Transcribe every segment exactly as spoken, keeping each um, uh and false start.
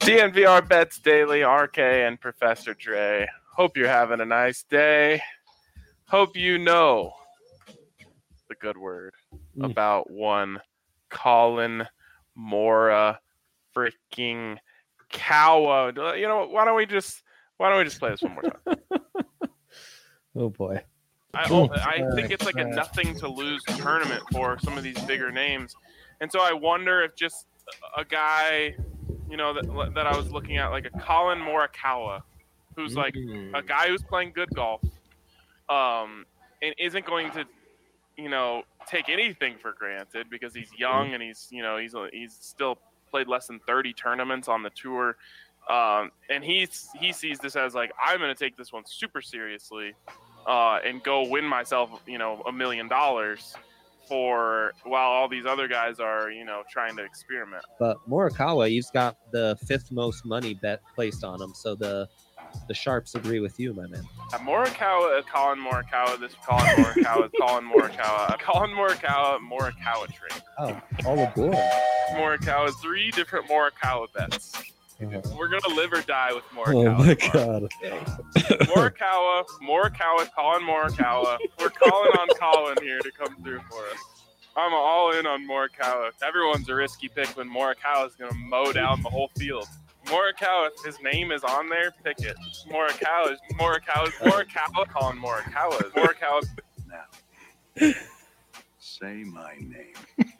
D N V R Bets Daily, R K and Professor Dre. Hope you're having a nice day. Hope you know the good word mm. about one Collin Mora freaking Kawa. You know, why don't we just why don't we just play this one more time? Oh boy. I, oh, I think it's like a nothing to lose tournament for some of these bigger names. And so I wonder if just a guy, you know, that that I was looking at, like a Collin Morikawa, who's like mm. a guy who's playing good golf, um, and isn't going to, you know, take anything for granted because he's young and he's, you know, he's he's still played less than thirty tournaments on the tour, um, and he's he sees this as like, I'm going to take this one super seriously, uh, and go win myself, you know, a million dollars. For while all these other guys are, you know, trying to experiment. But Morikawa, he's got the fifth most money bet placed on him, so the the sharps agree with you, my man. Uh, Morikawa, uh, Collin Morikawa, this Collin Morikawa, Collin Morikawa, Collin Morikawa, Morikawa trade. Oh, all aboard! Morikawa, three different Morikawa bets. Mm-hmm. We're gonna live or die with Morikawa. Oh my god! Morikawa, Morikawa, Collin Morikawa. We're calling on Collin here to come through for us. I'm all in on Morikawa. Everyone's a risky pick when Morikawa is gonna mow down the whole field. Morikawa, if his name is on there, pick it. Morikawa, Morikawa, Morikawa, Collin Morikawa, Morikawa. Now, say my name.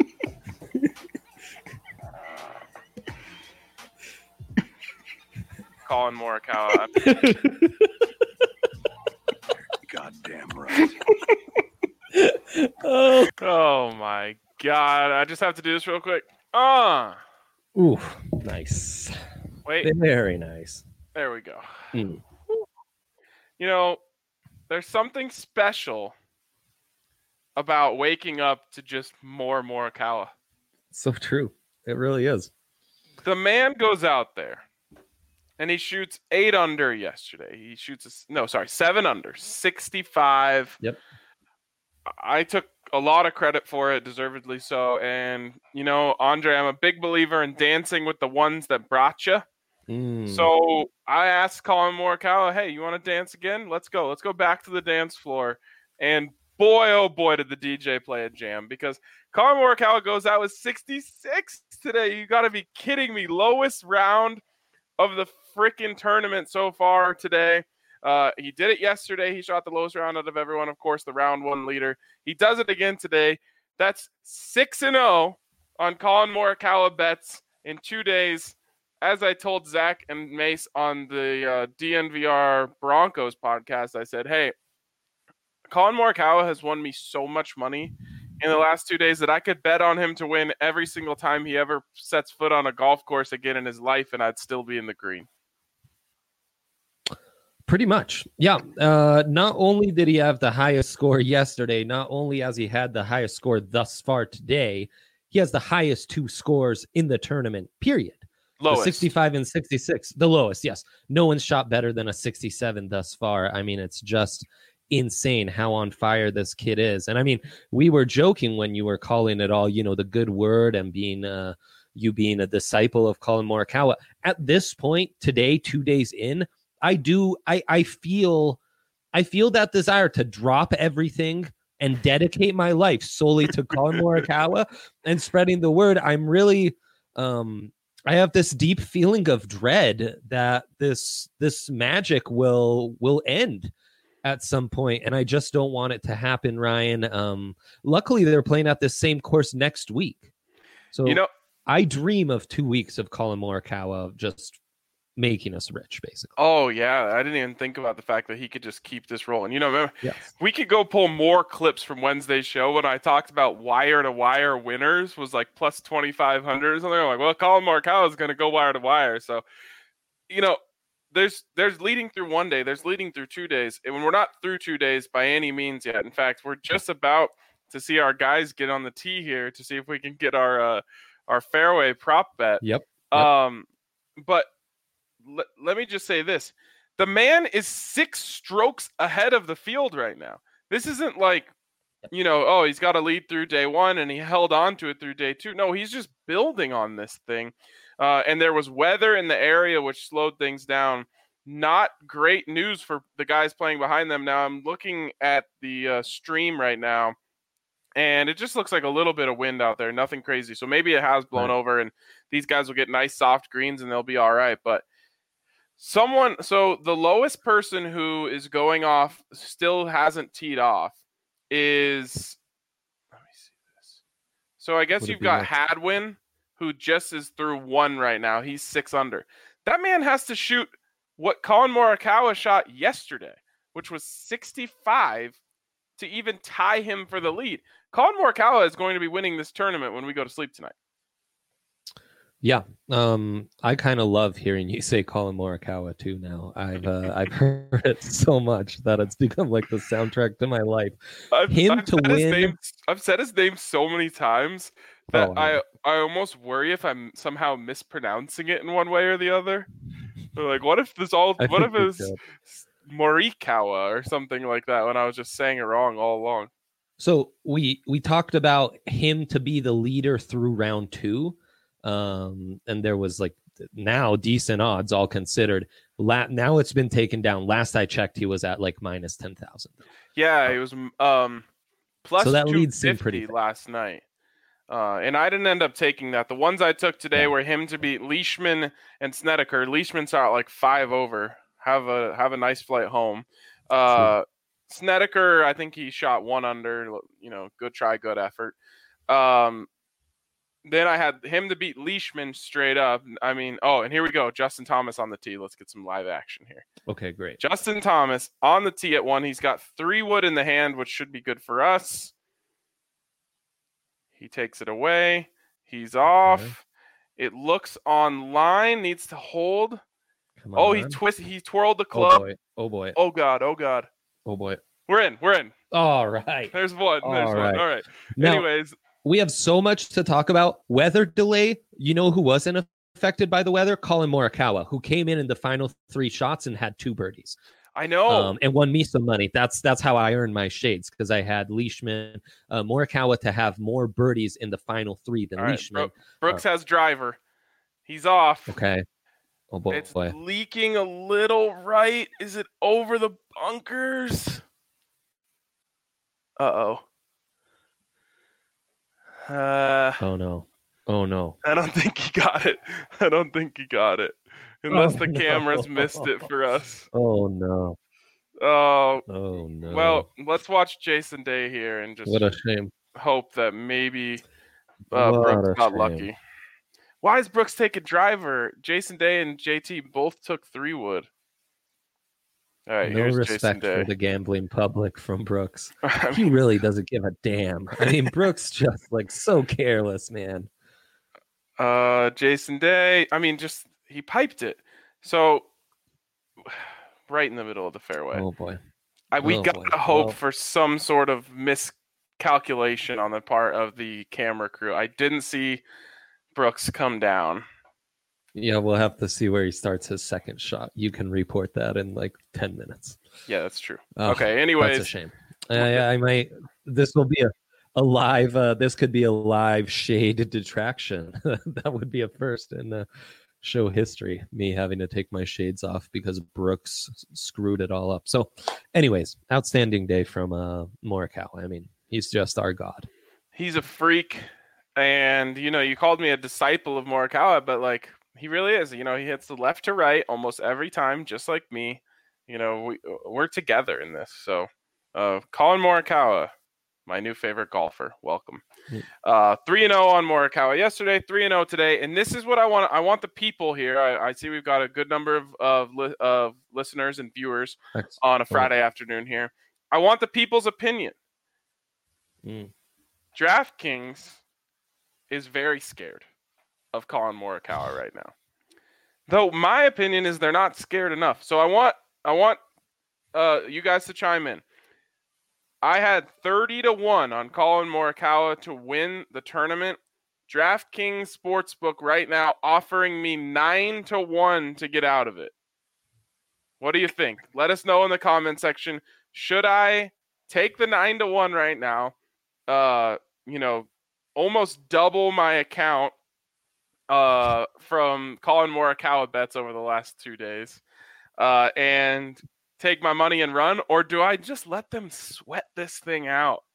Collin Morikawa. Goddamn right. oh. oh my god! I just have to do this real quick. Ah. Uh. Ooh, nice. Wait. Very nice. There we go. Mm. You know, there's something special about waking up to just more Morikawa. So true. It really is. The man goes out there. And he shoots eight under yesterday. He shoots, a, no, sorry, seven under, sixty-five. Yep. I took a lot of credit for it, deservedly so. And, you know, Andre, I'm a big believer in dancing with the ones that brought you. Mm. So I asked Collin Morikawa, hey, you want to dance again? Let's go. Let's go back to the dance floor. And boy, oh boy, did the D J play a jam, because Collin Morikawa goes out with sixty-six today. You got to be kidding me. Lowest round of the freaking tournament so far today. Uh, he did it yesterday. He shot the lowest round out of everyone. Of course, the round one leader. He does it again today. That's six and oh on Collin Morikawa bets in two days. As I told Zach and Mace on the uh, D N V R Broncos podcast, I said, hey, Collin Morikawa has won me so much money in the last two days that I could bet on him to win every single time he ever sets foot on a golf course again in his life, and I'd still be in the green. Pretty much. Yeah. Uh, not only did he have the highest score yesterday, not only has he had the highest score thus far today, he has the highest two scores in the tournament, period. Lowest. sixty-five and sixty-six. The lowest, yes. No one's shot better than a sixty-seven thus far. I mean, it's just insane how on fire this kid is. And I mean, we were joking when you were calling it all, you know, the good word and being uh, you being a disciple of Collin Morikawa. At this point today, two days in, I do, I, I feel, I feel that desire to drop everything and dedicate my life solely to Collin Morikawa and spreading the word. I'm really, um, I have this deep feeling of dread that this, this magic will, will end at some point, and I just don't want it to happen, Ryan. Um, luckily, they're playing at this same course next week, so you know, I dream of two weeks of Collin Morikawa just making us rich, basically. Oh yeah, I didn't even think about the fact that he could just keep this rolling. You know, remember, yes. we could go pull more clips from Wednesday's show when I talked about wire to wire winners was like plus twenty-five hundred or something. I'm like, well, Collin Morikawa is going to go wire to wire. So, you know, there's there's leading through one day, there's leading through two days, and when we're not through two days by any means yet. In fact, we're just about to see our guys get on the tee here to see if we can get our uh, our fairway prop bet. Yep. yep. Um, but. Let, let me just say this. The man is six strokes ahead of the field right now. This isn't like, you know, oh, he's got a lead through day one and he held on to it through day two. No, he's just building on this thing. Uh, and there was weather in the area which slowed things down. Not great news for the guys playing behind them. Now I'm looking at the uh, stream right now, and it just looks like a little bit of wind out there. Nothing crazy. So maybe it has blown Right. over, and these guys will get nice soft greens, and they'll be all right. But someone, so the lowest person who is going off still hasn't teed off is, let me see this. So I guess Would it you've be got next? Hadwin, who just is through one right now. He's six under. That man has to shoot what Colin Morikawa shot yesterday, which was sixty-five, to even tie him for the lead. Colin Morikawa is going to be winning this tournament when we go to sleep tonight. Yeah, um, I kind of love hearing you say Colin Morikawa too. Now I've uh, I've heard it so much that it's become like the soundtrack to my life. I've, Him I've to said his win- name, I've said his name so many times that Oh, I no. I almost worry if I'm somehow mispronouncing it in one way or the other. Or like, what if this all? I What if think it you was could. Morikawa or something like that when I was just saying it wrong all along? So we we talked about him to be the leader through round two, um, and there was like now decent odds all considered. La- now it's been taken down. Last I checked, he was at like minus ten thousand. Yeah, it was um plus So that two lead seemed pretty fifty thick. last night. Uh, and I didn't end up taking that. The ones I took today Yeah. were him to beat Leishman and Snedeker. Leishman's out like five over. Have a have a nice flight home. Uh, Snedeker, I think he shot one under. You know, good try, good effort. Um, then I had him to beat Leishman straight up. I mean, oh, and here we go. Justin Thomas on the tee. Let's get some live action here. Okay, great. Justin Thomas on the tee at one. He's got three wood in the hand, which should be good for us. He takes it away. He's off. Okay. It looks online. Needs to hold. Come Oh, he on. twist. He twirled the Oh club. boy. Oh boy. Oh god. Oh god. Oh boy. We're in. We're in. All right. There's one. There's All one. right. All right. Now, Anyways, we have so much to talk about. Weather delay. You know who wasn't affected by the weather? Colin Morikawa, who came in in the final three shots and had two birdies. I know. Um, and won me some money. That's that's how I earned my shades, because I had Leishman, uh, Morikawa to have more birdies in the final three than All right, Leishman. Brooks has driver. He's off. Okay. Oh boy. It's boy. leaking a little right. Is it over the bunkers? Uh-oh. Uh Oh no. Oh no. I don't think he got it. I don't think he got it. Unless Oh, the no. cameras missed it for us. Oh no. Oh, Oh no. well, let's watch Jason Day here and just what a shame. hope that maybe uh, What Brooks a got shame. lucky. Why is Brooks taking driver? Jason Day and J T both took three wood. All right, No here's Jason respect Day. for the gambling public from Brooks. I He mean, really doesn't give a damn. I mean, Brooks just like so careless, man. uh, Jason Day. I mean, just he piped it. So right in the middle of the fairway. Oh boy. I, we Oh, got boy. to hope Well- for some sort of miscalculation on the part of the camera crew. I didn't see Brooks come down. Yeah, we'll have to see where he starts his second shot. You can report that in like ten minutes. Yeah, that's true. Oh, Okay, That's a anyways, shame. I, I might. This will be a, a live. Uh, this could be a live shade detraction. That would be a first in uh, show history. Me having to take my shades off because Brooks s- screwed it all up. So, anyways, outstanding day from uh, Morikawa. I mean, he's just our god. he's a freak. And, you know, you called me a disciple of Morikawa, but, like, he really is. You know, he hits the left to right almost every time, just like me. You know, we, we're together in this. So, uh, Colin Morikawa, my new favorite golfer. Welcome. Mm. Uh, three and oh on Morikawa yesterday, three and oh today. And this is what I want. I want the people here. I, I see we've got a good number of, of, li- of listeners and viewers Excellent. on a Friday afternoon here. I want the people's opinion. Mm. DraftKings is very scared of Colin Morikawa right now. Though my opinion is they're not scared enough. So I want I want uh, you guys to chime in. I had thirty to one on Colin Morikawa to win the tournament. DraftKings Sportsbook right now offering me nine to one to get out of it. What do you think? Let us know in the comment section. Should I take the nine to one right now? Uh, you know, almost double my account uh, from Colin Morikawa bets over the last two days uh, and take my money and run, or do I just let them sweat this thing out?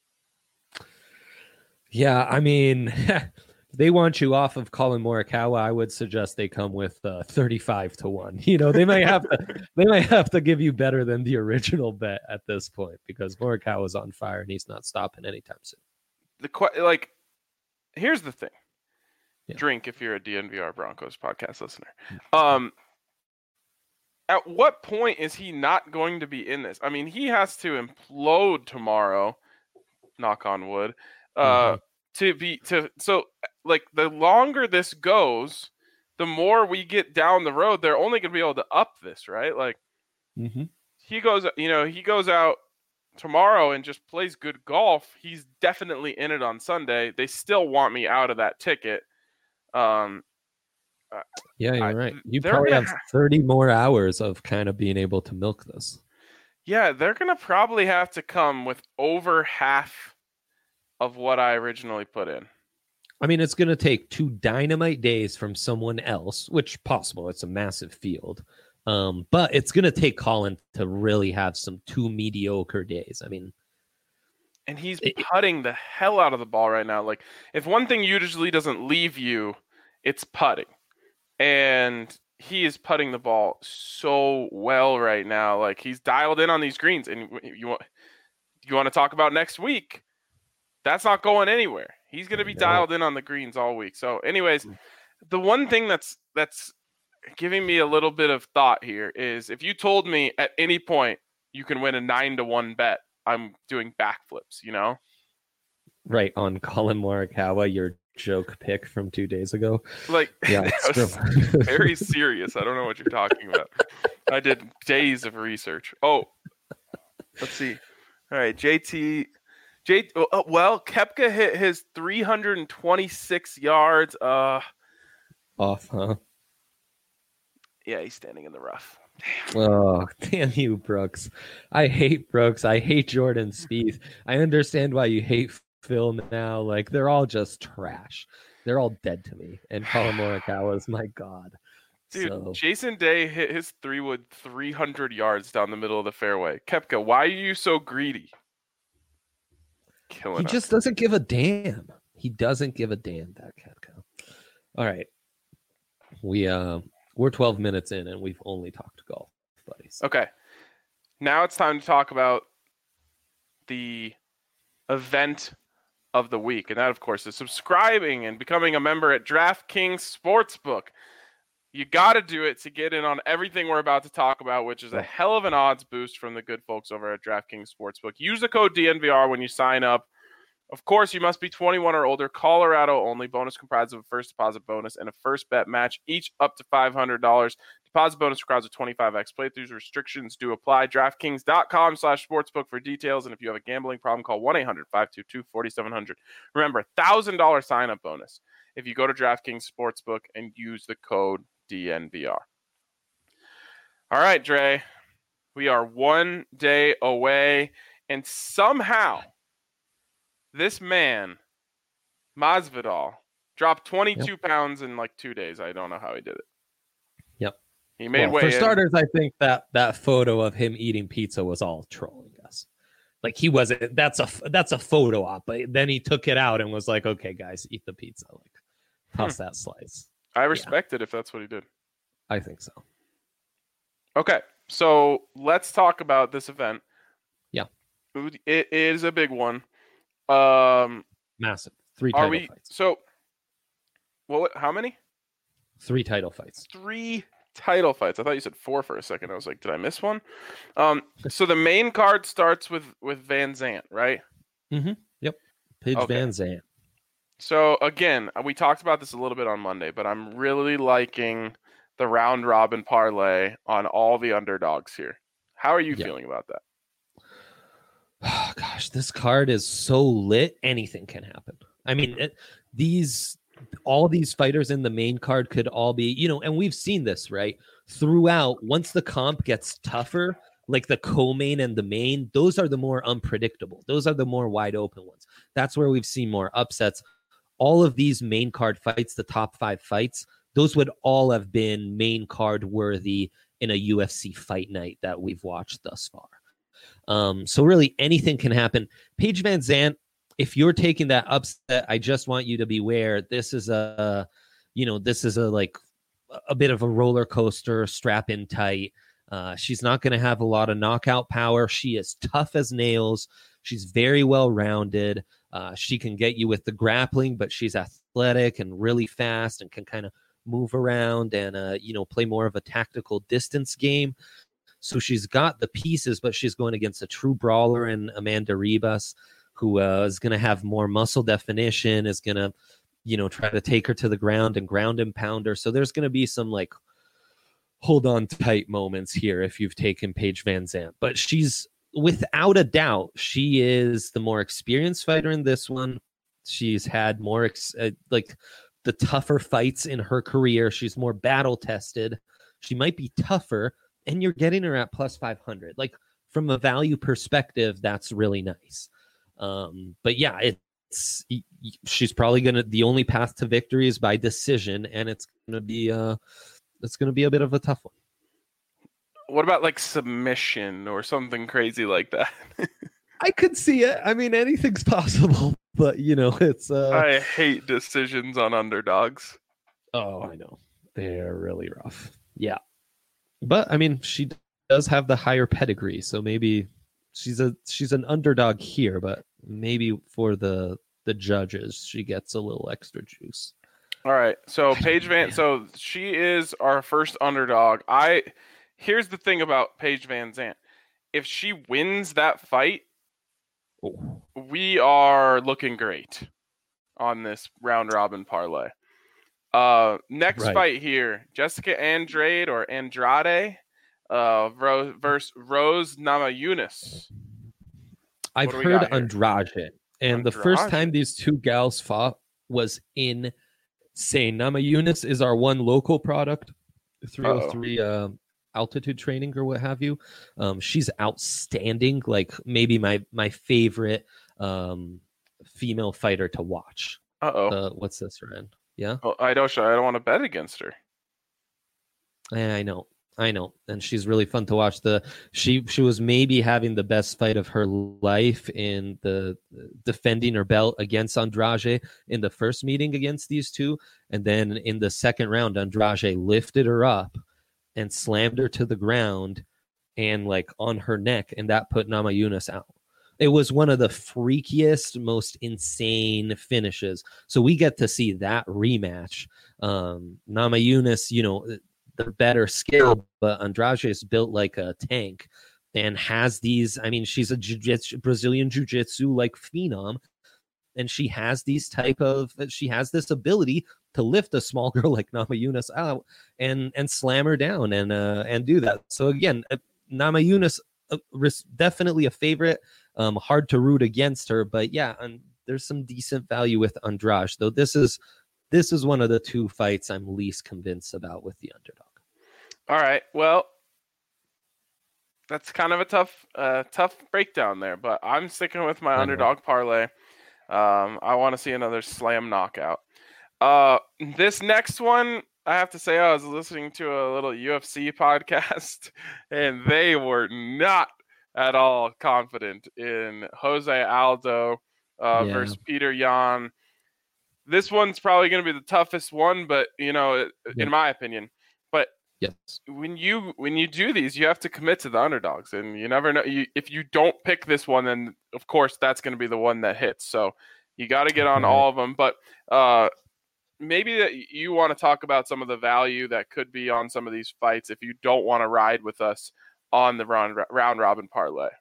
Yeah, I mean, they want you off of Colin Morikawa. I would suggest they come with uh, thirty-five to one. You know, they might have to they might have to give you better than the original bet at this point because Morikawa's on fire and he's not stopping anytime soon. The like, here's the thing. Yeah. Drink if you're a D N V R Broncos podcast listener. Um, at what point is he not going to be in this? I mean, he has to implode tomorrow. Knock on wood. Uh, mm-hmm. to be to so like the longer this goes, the more we get down the road. They're only going to be able to up this, right? Like mm-hmm. he goes, you know, he goes out tomorrow and just plays good golf. He's definitely in it on Sunday. They still want me out of that ticket. Um, yeah, you're I, right. You probably have thirty more hours of kind of being able to milk this. Yeah, they're going to probably have to come with over half of what I originally put in. I mean, it's going to take two dynamite days from someone else, which possible. It's a massive field. Um, but it's going to take Colin to really have some two mediocre days. I mean, and he's it, putting the hell out of the ball right now. Like, if one thing usually doesn't leave you, it's putting. And he is putting the ball so well right now. Like, he's dialed in on these greens. And you want you want to talk about next week? That's not going anywhere. He's going to be no. dialed in on the greens all week. So, anyways, the one thing that's that's giving me a little bit of thought here is if you told me at any point you can win a nine to one bet, I'm doing backflips. You know, right on Colin Morikawa, your joke pick from two days ago. Like, yeah, that was very serious. I don't know what you're talking about. I did days of research. Oh, let's see. All right, J T. J, uh, well, Koepka hit his three hundred twenty-six yards. Uh, Off, huh? Yeah, he's standing in the rough. Damn. Oh, damn you, Brooks. I hate Brooks. I hate Jordan Spieth. I understand why you hate Phil now. Like, they're all just trash. They're all dead to me. And Colin Morikawa is my god. Dude, so. Jason Day hit his three-wood three hundred yards down the middle of the fairway. Koepka, why are you so greedy? Killing he us. just doesn't give a damn. He doesn't give a damn, that Koepka. All right. We, uh, we're twelve minutes in, and we've only talked golf, buddies. Okay. Now it's time to talk about the event of the week. And that, of course, is subscribing and becoming a member at DraftKings Sportsbook. You got to do it to get in on everything we're about to talk about, which is a hell of an odds boost from the good folks over at DraftKings Sportsbook. Use the code D N V R when you sign up. Of course, you must be twenty-one or older. Colorado only. Bonus comprised of a first deposit bonus and a first bet match, each up to five hundred dollars. Deposit bonus requires a twenty-five x playthroughs. Restrictions do apply. DraftKings.com slash sportsbook for details. And if you have a gambling problem, call one eight hundred five two two four seven zero zero. Remember, one thousand dollars sign-up bonus if you go to DraftKings Sportsbook and use the code D N V R. All right, Dre. We are one day away, and somehow this man, Masvidal, dropped twenty-two yep. pounds in like two days. I don't know how he did it. Yep. He made well, way For in. starters, I think that that photo of him eating pizza was all trolling us. Like, he wasn't, that's a, that's a photo op, but then he took it out and was like, okay, guys, eat the pizza. Like, toss hmm. that slice. I respect yeah. it if that's what he did. I think so. Okay, so let's talk about this event. Yeah. It is a big one. Um, Massive. Three title we, fights. So, what? How many? Three title fights. Three title fights. I thought you said four for a second. I was like, did I miss one? Um, so the main card starts with with Van Zandt, right? Mm-hmm. Yep. Pidge okay. Van Zandt. So again, we talked about this a little bit on Monday, but I'm really liking the round robin parlay on all the underdogs here. How are you yep. feeling about that? Oh, gosh, this card is so lit. Anything can happen. I mean, it, these all these fighters in the main card could all be, you know, and we've seen this, right? Throughout, once the comp gets tougher, like the co-main and the main, those are the more unpredictable. Those are the more wide open ones. That's where we've seen more upsets. all of these main card fights, the top five fights, those would all have been main card worthy in a U F C fight night that we've watched thus far. Um, so really anything can happen. Paige Van Zandt, if you're taking that upset, I just want you to beware. This is a, you know, this is a like a bit of a roller coaster, strap in tight. Uh, she's not going to have a lot of knockout power. She is tough as nails. She's very well rounded. Uh, she can get you with the grappling, but she's athletic and really fast and can kind of move around and, uh, you know, play more of a tactical distance game. So she's got the pieces, but she's going against a true brawler in Amanda Ribas, who uh, is going to have more muscle definition, is going to, you know, try to take her to the ground and ground and pound her. So there's going to be some like hold on tight moments here if you've taken Paige Van Zandt. But she's, without a doubt, she is the more experienced fighter in this one. She's had more ex- uh, like the tougher fights in her career. She's more battle tested. She might be tougher, and you're getting her at plus five hundred. Like from a value perspective, that's really nice. Um, but yeah, it's she's probably gonna, the only path to victory is by decision, and it's gonna be uh it's gonna be a bit of a tough one. What about like submission or something crazy like that? I could see it. I mean, anything's possible, but you know, it's uh I hate decisions on underdogs. Oh, I know. They're really rough. Yeah. But I mean, she does have the higher pedigree, so maybe she's a she's an underdog here, but maybe for the the judges, she gets a little extra juice. All right. So Paige Van, so she is our first underdog. I here's the thing about Paige Van Zandt. If she wins that fight, Oh. we are looking great on this round robin parlay. Uh, next Right. fight here, Jessica Andrade or Andrade uh, Ro- versus Rose Namajunas. I've What do we heard got here? Andrade, and the first Andrade. time these two gals fought was insane. Namajunas is our one local product, three oh three uh, altitude training or what have you. Um, she's outstanding. Like maybe my my favorite um, female fighter to watch. Uh oh. Uh, what's this, Ryan? Yeah, Oh, I don't. I don't want to bet against her. Yeah, I know, I know, and she's really fun to watch. The she she was maybe having the best fight of her life in the defending her belt against Andrade in the first meeting against these two, and then in the second round, Andrade lifted her up and slammed her to the ground and like on her neck, and that put Namajunas out. It was one of the freakiest, most insane finishes. So we get to see that rematch. Um, Namajunas, you know, the better skill, but Andrade is built like a tank and has these. I mean, she's a jiu-jitsu, Brazilian jiu-jitsu like phenom, and she has these type of. She has this ability to lift a small girl like Namajunas out and and slam her down and uh, and do that. So again, Namajunas uh, definitely a favorite. Um, hard to root against her, but yeah, and there's some decent value with Andrade. Though this is this is one of the two fights I'm least convinced about with the underdog. All right. Well, that's kind of a tough, uh, tough breakdown there, but I'm sticking with my I know. underdog parlay. Um, I want to see another slam knockout. Uh, this next one, I have to say, I was listening to a little U F C podcast, and they were not at all confident in Jose Aldo uh, Yeah. versus Peter Yan. This one's probably going to be the toughest one, but you know, Yeah. in my opinion. But Yes. when you when you do these, you have to commit to the underdogs, and you never know. You, if you don't pick this one, then of course that's going to be the one that hits. So you got to get on Right. all of them. But uh, maybe that you want to talk about some of the value that could be on some of these fights if you don't want to ride with us on the round round robin parlay.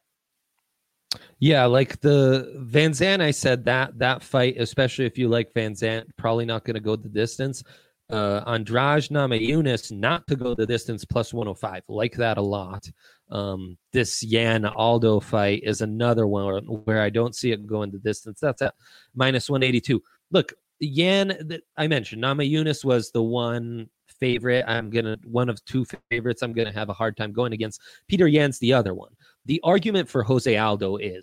Yeah, like the Van Zandt, I said that that fight, especially if you like Van Zandt, probably not going to go the distance. Uh, Andrade Namajunas not to go the distance plus one oh five, like that a lot. Um, this Yan Aldo fight is another one where I don't see it going the distance. That's at minus one eighty-two. Look, Yan, that I mentioned, Namajunas was the one favorite. I'm gonna one of two favorites. I'm gonna have a hard time going against. Peter Yan's the other one. The argument for Jose Aldo is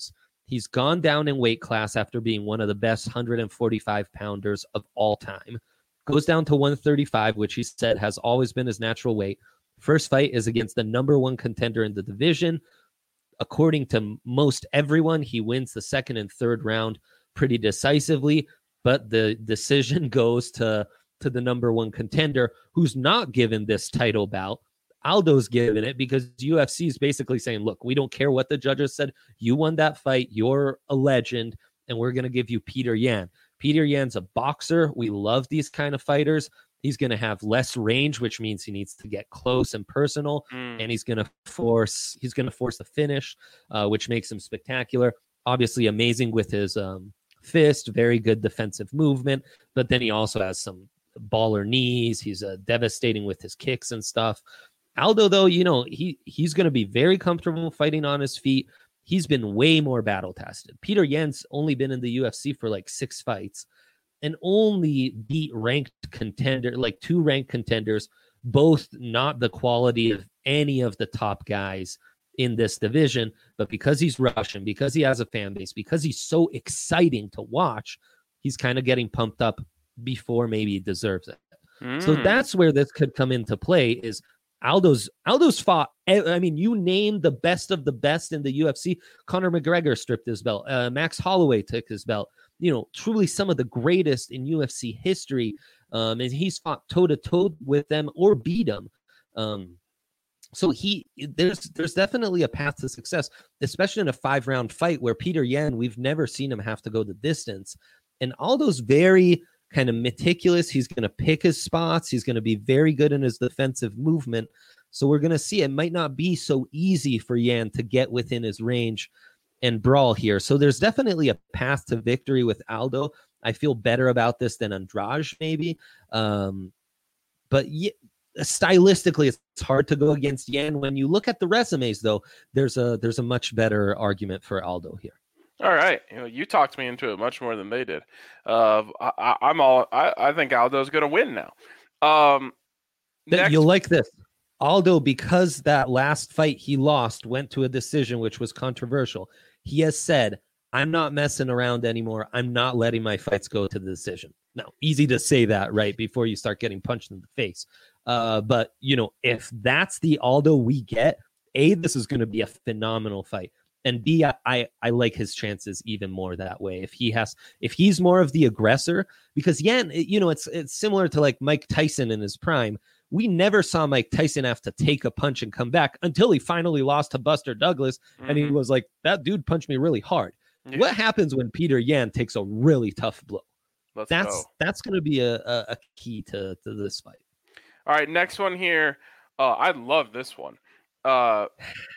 He's gone down in weight class after being one of the best one forty-five pounders of all time. Goes down to one thirty-five, which he said has always been his natural weight. First fight is against the number one contender in the division. According to most everyone, he wins the second and third round pretty decisively, but the decision goes to, to the number one contender, who's not given this title bout. Aldo's given it because U F C is basically saying, look, we don't care what the judges said. You won that fight. You're a legend, and we're going to give you Peter Yan. Peter Yan's a boxer. We love these kind of fighters. He's going to have less range, which means he needs to get close and personal, mm. and he's going to force he's going to force the finish, uh, which makes him spectacular. Obviously amazing with his um, fist, very good defensive movement, but then he also has some baller knees. He's uh, devastating with his kicks and stuff. Aldo, though, you know, he he's going to be very comfortable fighting on his feet. He's been way more battle tested. Peter Yan's only been in the U F C for like six fights and only beat ranked contender, like two ranked contenders, both not the quality of any of the top guys in this division. But because he's Russian, because he has a fan base, because he's so exciting to watch, he's kind of getting pumped up before maybe he deserves it. Mm. So that's where this could come into play is Aldo's Aldo's fought. I mean, you name the best of the best in the U F C. Conor McGregor stripped his belt. Uh, Max Holloway took his belt. You know, truly some of the greatest in U F C history. Um, and he's fought toe to toe with them or beat them. Um, so he there's there's definitely a path to success, especially in a five round fight where Peter Yan, we've never seen him have to go the distance. And Aldo's very kind of meticulous. He's going to pick his spots. He's going to be very good in his defensive movement. So we're going to see it might not be so easy for Yan to get within his range and brawl here. So there's definitely a path to victory with Aldo. I feel better about this than Andrade maybe. Um, but yeah, stylistically, it's hard to go against Yan. When you look at the resumes, though, there's a there's a much better argument for Aldo here. All right, you know, you talked me into it much more than they did. Uh, I, I'm all. I, I think Aldo's going to win now. Um, next... You'll like this, Aldo, because that last fight he lost went to a decision, which was controversial. He has said, "I'm not messing around anymore. I'm not letting my fights go to the decision." Now, easy to say that right before you start getting punched in the face. Uh, but you know, if that's the Aldo we get, A, this is going to be a phenomenal fight. And B, I, I, I like his chances even more that way. If he has, if he's more of the aggressor, because Yan, you know, it's it's similar to like Mike Tyson in his prime. We never saw Mike Tyson have to take a punch and come back until he finally lost to Buster Douglas, mm-hmm. and he was like, "That dude punched me really hard." Yeah. What happens when Peter Yan takes a really tough blow? Let's that's go. that's going to be a, a, a key to, to this fight. All right, next one here. Uh, I love this one. Uh,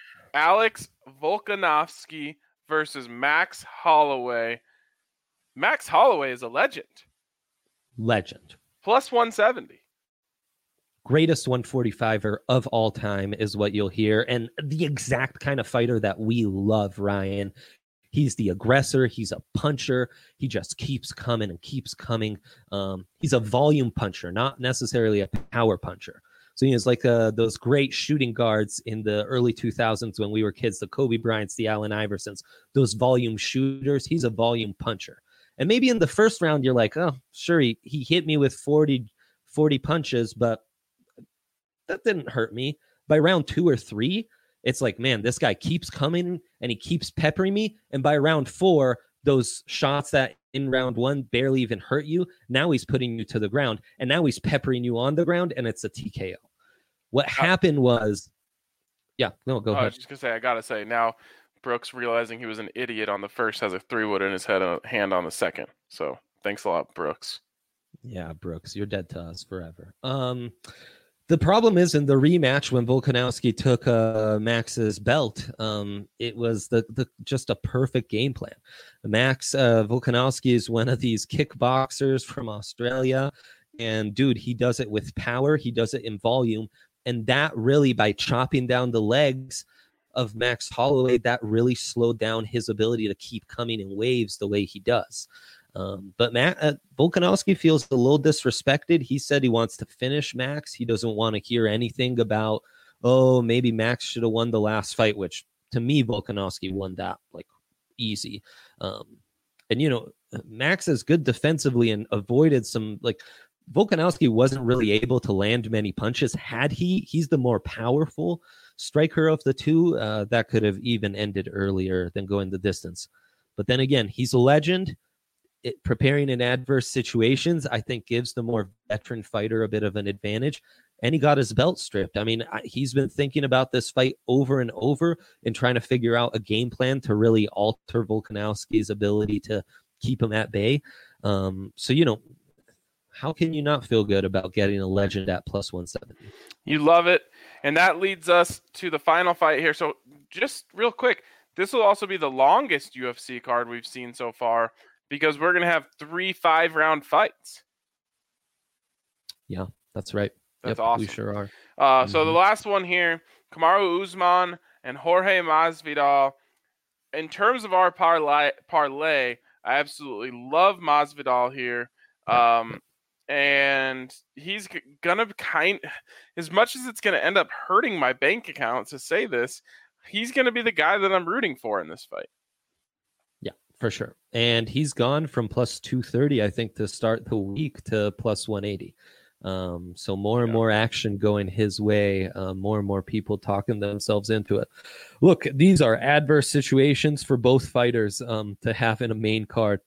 Alex Volkanovski versus Max Holloway. Max Holloway is a legend. Legend. Plus one seventy. Greatest one forty-fiver of all time is what you'll hear. And the exact kind of fighter that we love, Ryan. He's the aggressor. He's a puncher. He just keeps coming and keeps coming. Um, he's a volume puncher, not necessarily a power puncher. So he was like uh, those great shooting guards in the early two thousands when we were kids, the Kobe Bryants, the Allen Iversons, those volume shooters. He's a volume puncher. And maybe in the first round, you're like, oh, sure, he, he hit me with forty, forty punches, but that didn't hurt me. By round two or three, it's like, man, this guy keeps coming and he keeps peppering me. And by round four, those shots that in round one barely even hurt you, now he's putting you to the ground. And now he's peppering you on the ground, and it's a T K O. What happened was, yeah, no, go oh, ahead. I was just going to say, I got to say, now Brooks realizing he was an idiot on the first has a three wood in his head and a hand on the second. So thanks a lot, Brooks. Yeah, Brooks, you're dead to us forever. Um, the problem is in the rematch when Volkanovski took uh, Max's belt, um, it was the, the just a perfect game plan. Max uh, Volkanovski is one of these kickboxers from Australia. And dude, he does it with power. He does it in volume. And that really, by chopping down the legs of Max Holloway, that really slowed down his ability to keep coming in waves the way he does. Um, but Matt, uh, Volkanovski feels a little disrespected. He said he wants to finish Max. He doesn't want to hear anything about, oh, maybe Max should have won the last fight, which to me, Volkanovski won that like easy. Um, and, you know, Max is good defensively and avoided some, like, Volkanovski wasn't really able to land many punches. Had he, he's the more powerful striker of the two. Uh, that could have even ended earlier than going the distance. But then again, he's a legend. It, preparing in adverse situations, I think, gives the more veteran fighter a bit of an advantage. And he got his belt stripped. I mean, I, he's been thinking about this fight over and over and trying to figure out a game plan to really alter Volkanovski's ability to keep him at bay. Um, so, you know, how can you not feel good about getting a legend at plus one seventy? You love it. And that leads us to the final fight here. So just real quick, this will also be the longest U F C card we've seen so far because we're going to have three five-round fights. Yeah, that's right. That's yep, awesome. We sure are. Uh, mm-hmm. So the last one here, Kamaru Usman and Jorge Masvidal. In terms of our parlay, parlay I absolutely love Masvidal here. Um, and he's g- gonna kind, as much as it's gonna end up hurting my bank account to say this, he's gonna be the guy that I'm rooting for in this fight. Yeah, for sure. And he's gone from plus two thirty, I think, to start the week to plus one eighty. Um, so more and yeah. more action going his way, uh, more and more people talking themselves into it. Look, these are adverse situations for both fighters um, to have in a main card.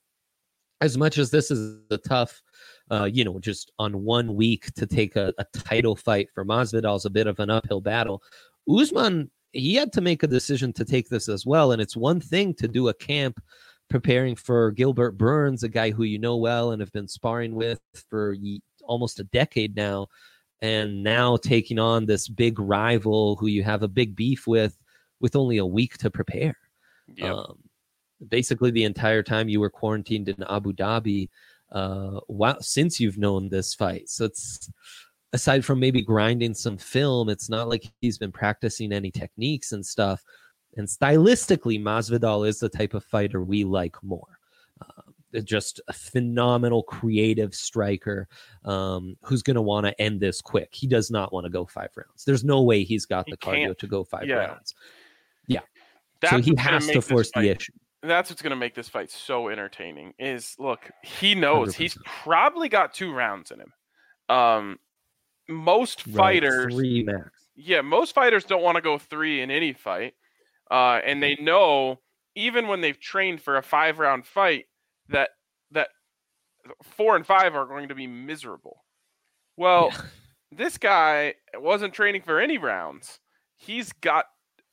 As much as this is a tough, uh, you know, just on one week to take a, a title fight for Masvidal is a bit of an uphill battle. Usman, he had to make a decision to take this as well. And it's one thing to do a camp preparing for Gilbert Burns, a guy who you know well and have been sparring with for almost a decade now, and now taking on this big rival who you have a big beef with, with only a week to prepare. Yep. Um, basically the entire time you were quarantined in Abu Dhabi, uh, wow, since you've known this fight. So it's, aside from maybe grinding some film, it's not like he's been practicing any techniques and stuff. And stylistically, Masvidal is the type of fighter we like more. Uh, just a phenomenal creative striker um, who's going to want to end this quick. He does not want to go five rounds. There's no way he's got he the cardio can't. to go five yeah. rounds. Yeah. That's so he has to force the issue. That's what's going to make this fight so entertaining is, look, he knows one hundred percent. He's probably got two rounds in him. Um, most right, fighters, three max. Yeah, most fighters don't want to go three in any fight. Uh, and they know, even when they've trained for a five-round fight, that that four and five are going to be miserable. Well, yeah. This guy wasn't training for any rounds. He's got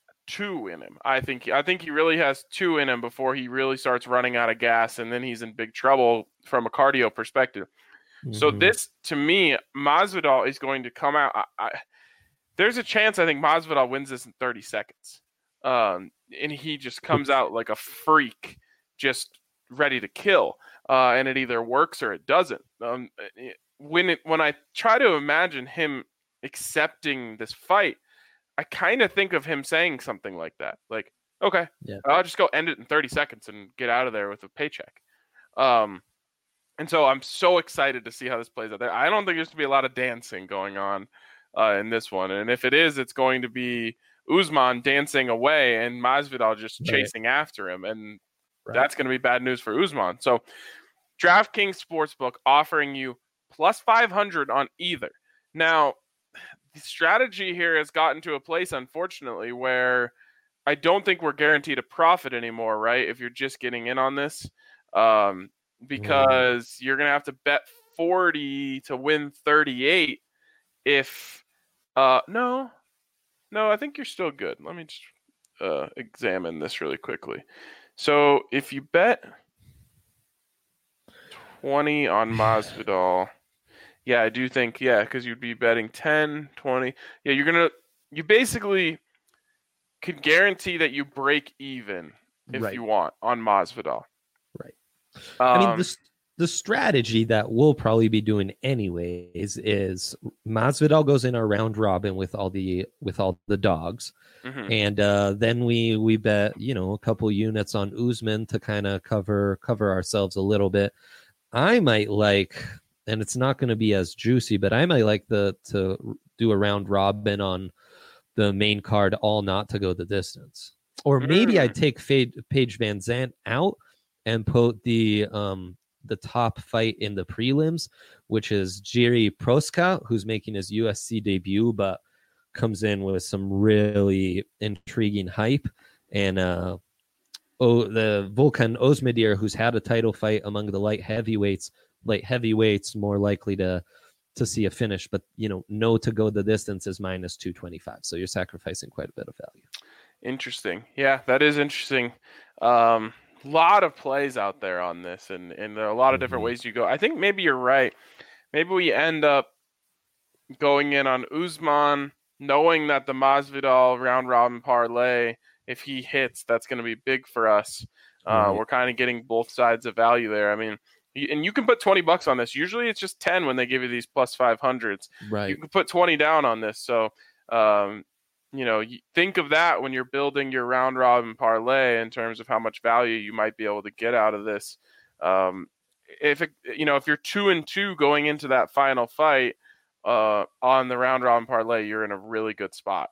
two in him. I think I think he really has two in him before he really starts running out of gas, and then he's in big trouble from a cardio perspective. Mm-hmm. So this, to me, Masvidal is going to come out. I, I, there's a chance I think Masvidal wins this in thirty seconds. Um, and he just comes out like a freak, just ready to kill. Uh, and it either works or it doesn't. Um, it, when it, when I try to imagine him accepting this fight, I kind of think of him saying something like that. Like, okay, yeah. I'll just go end it in thirty seconds and get out of there with a paycheck. Um, and so I'm so excited to see how this plays out there. I don't think there's going to be a lot of dancing going on uh, in this one. And if it is, it's going to be Usman dancing away and Masvidal just chasing right. after him. And right. that's going to be bad news for Usman. So DraftKings Sportsbook offering you plus five hundred on either. Now, the strategy here has gotten to a place, unfortunately, where I don't think we're guaranteed a profit anymore, right? If you're just getting in on this, um, because mm. you're going to have to bet forty to win thirty-eight. If, uh, no, no, I think you're still good. Let me just uh, examine this really quickly. So if you bet twenty on Masvidal, yeah, I do think, yeah, because you'd be betting ten, twenty. Yeah, you're going to, you basically could guarantee that you break even if right. you want on Masvidal. Right. Um, I mean, the, the strategy that we'll probably be doing anyways is Masvidal goes in our round robin with all the, with all the dogs. Mm-hmm. And uh, then we, we bet, you know, a couple units on Usman to kind of cover, cover ourselves a little bit. I might like, and it's not going to be as juicy, but I might like the to do a round robin on the main card, all not to go the distance. Or maybe Mm. I'd take Fade, Paige Van Zandt out and put the um, the top fight in the prelims, which is Jiri Proska, who's making his U F C debut, but comes in with some really intriguing hype. And uh, oh, the Volkan Ozmedir, who's had a title fight among the light heavyweights, light heavyweights more likely to to see a finish, but you know, no to go the distance is minus two twenty-five. So you're sacrificing quite a bit of value. Interesting. Yeah, that is interesting. Um, lot of plays out there on this, and, and there are a lot of different Mhm. ways you go. I think maybe you're right. Maybe we end up going in on Usman, knowing that the Masvidal round robin parlay, if he hits, that's going to be big for us. Uh, Right. We're kind of getting both sides of value there. I mean, y- and you can put twenty bucks on this. Usually it's just ten when they give you these plus five hundreds. Right. You can put twenty down on this. So, um, you know, you think of that when you're building your round robin parlay in terms of how much value you might be able to get out of this. Um, if it, you know, if you're two and two going into that final fight uh, on the round robin parlay, you're in a really good spot.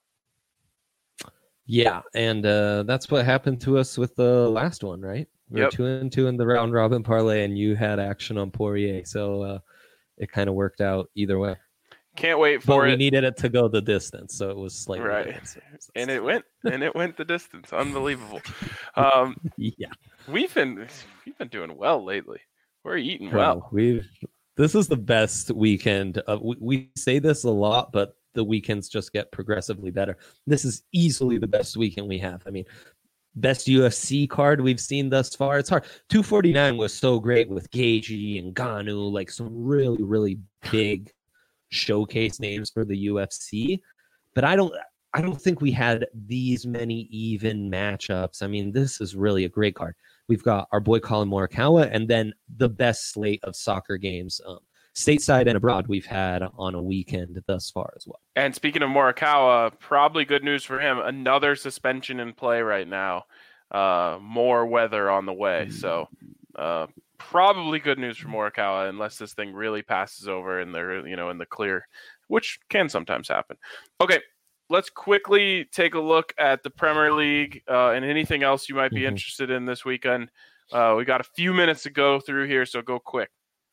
Yeah, and uh, that's what happened to us with the last one, right? We Yep. were two and two in the round robin parlay, and you had action on Poirier, so uh, it kind of worked out either way. Can't wait But for we it. needed it to go the distance, so it was slightly Right. different. So that's- And it went, and it went the distance. Unbelievable. Um, yeah. we've been, we've been doing well lately. We're eating well. Well, we've this is the best weekend. Of, we, we say this a lot, but the weekends just get progressively better. This is easily the best weekend we have. I mean, best U F C card we've seen thus far. It's hard. two forty-nine was so great with Gaethje and Ngannou, like some really, really big showcase names for the U F C. But I don't I don't think we had these many even matchups. I mean, this is really a great card. We've got our boy Colin Morikawa, and then the best slate of soccer games, um, stateside and abroad, we've had on a weekend thus far as well. And speaking of Morikawa, probably good news for him. Another suspension in play right now. Uh, more weather on the way. So uh, probably good news for Morikawa, unless this thing really passes over and they're, you know, in the clear, which can sometimes happen. Okay, let's quickly take a look at the Premier League uh, and anything else you might be Mhm. interested in this weekend. Uh, we got a few minutes to go through here, so go quick.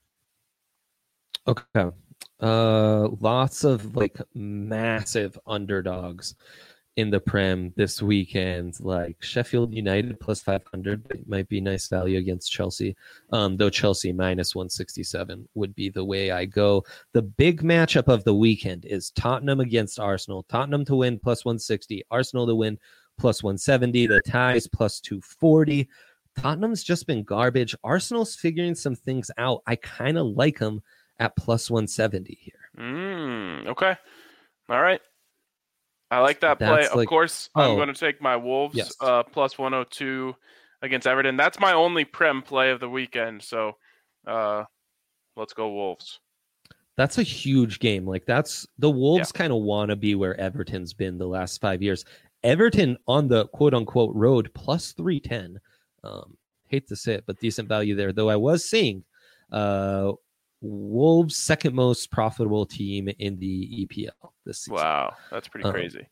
Okay. Uh, lots of like massive underdogs in the Prem this weekend, like Sheffield United plus five hundred might be nice value against Chelsea. Um, though Chelsea minus one sixty-seven would be the way I go. The big matchup of the weekend is Tottenham against Arsenal. Tottenham to win plus one sixty, Arsenal to win plus one seventy, the ties plus two forty. Tottenham's just been garbage. Arsenal's figuring some things out. I kind of like them at plus one seventy here. Mm, okay. All right. I like that play. That's Of like- course, I'm oh. going to take my Wolves Yes. uh, plus one oh two against Everton. That's my only Prem play of the weekend. So uh, let's go Wolves. That's a huge game. Like that's the Wolves kind of want to be where Everton's been the last five years. Everton on the quote unquote road plus three ten. Um, hate to say it, but decent value there. Though I was seeing uh, Wolves second most profitable team in the E P L this season. Wow, that's pretty Um, crazy.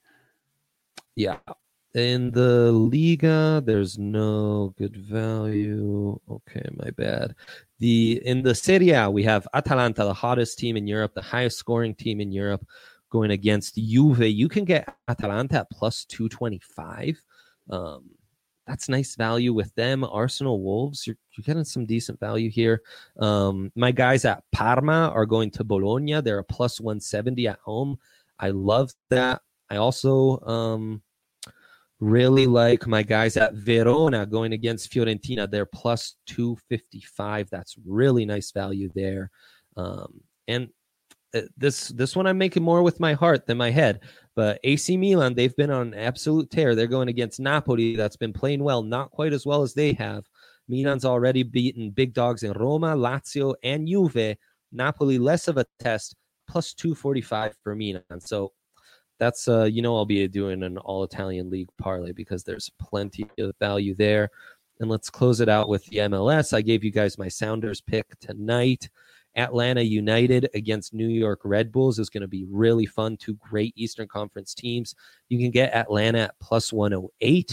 Yeah. In the Liga, there's no good value. Okay, my bad. The in the Serie A, we have Atalanta, the hottest team in Europe, the highest scoring team in Europe, going against Juve. You can get Atalanta at plus two twenty-five. Um, that's nice value with them. Arsenal, Wolves, you're, you're getting some decent value here. Um, my guys at Parma are going to Bologna. They're a plus one seventy at home. I love that. I also um, really like my guys at Verona going against Fiorentina. They're plus two fifty-five. That's really nice value there. Um, and uh, this this one I'm making more with my heart than my head. But A C Milan, they've been on an absolute tear. They're going against Napoli that's been playing well, not quite as well as they have. Milan's already beaten big dogs in Roma, Lazio, and Juve. Napoli, less of a test, plus two forty-five for Milan. So that's, uh, you know, I'll be doing an all-Italian league parlay because there's plenty of value there. And let's close it out with the M L S. I gave you guys my Sounders pick tonight. Atlanta United against New York Red Bulls is going to be really fun. Two great Eastern Conference teams. You can get Atlanta at plus one oh eight.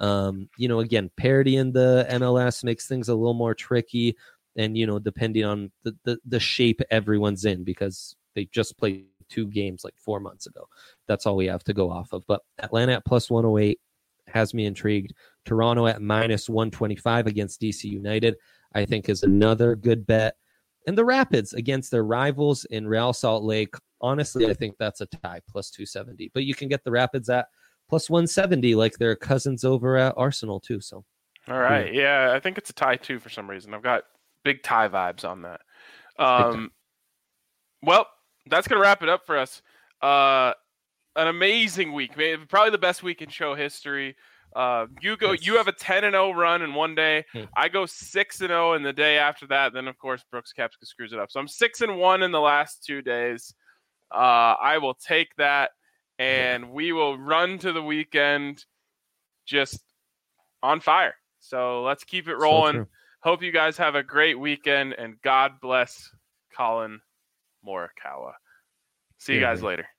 Um, you know, again, parity in the M L S makes things a little more tricky, and you know, depending on the the, the shape everyone's in, because they just played two games like four months ago. That's all we have to go off of. But Atlanta at plus one oh eight has me intrigued. Toronto at minus one twenty-five against D C United, I think, is another good bet. And the Rapids against their rivals in Real Salt Lake, honestly, I think that's a tie, plus two seventy. But you can get the Rapids at plus one seventy, like their cousins over at Arsenal, too. So, all right. Yeah, I think it's a tie, too, for some reason. I've got big tie vibes on that. Um, well, that's going to wrap it up for us. Uh, an amazing week. Maybe, probably the best week in show history. Uh, you go. Yes. You have a ten and oh run in one day. Hmm. I go six and oh in the day after that. Then, of course, Brooks Koepka screws it up. So I'm six and one in the last two days. Uh, I will take that, and yeah. we will run to the weekend just on fire. So let's keep it rolling. So Hope you guys have a great weekend, and God bless Collin Morikawa. See you yeah, guys man. later.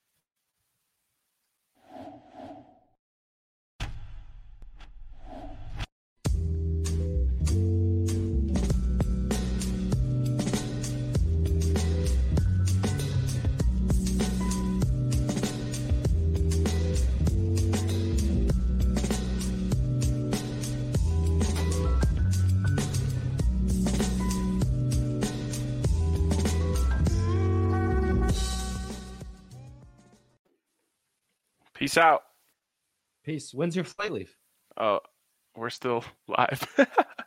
Peace out. Peace. When's your flight leave? Oh, we're still live.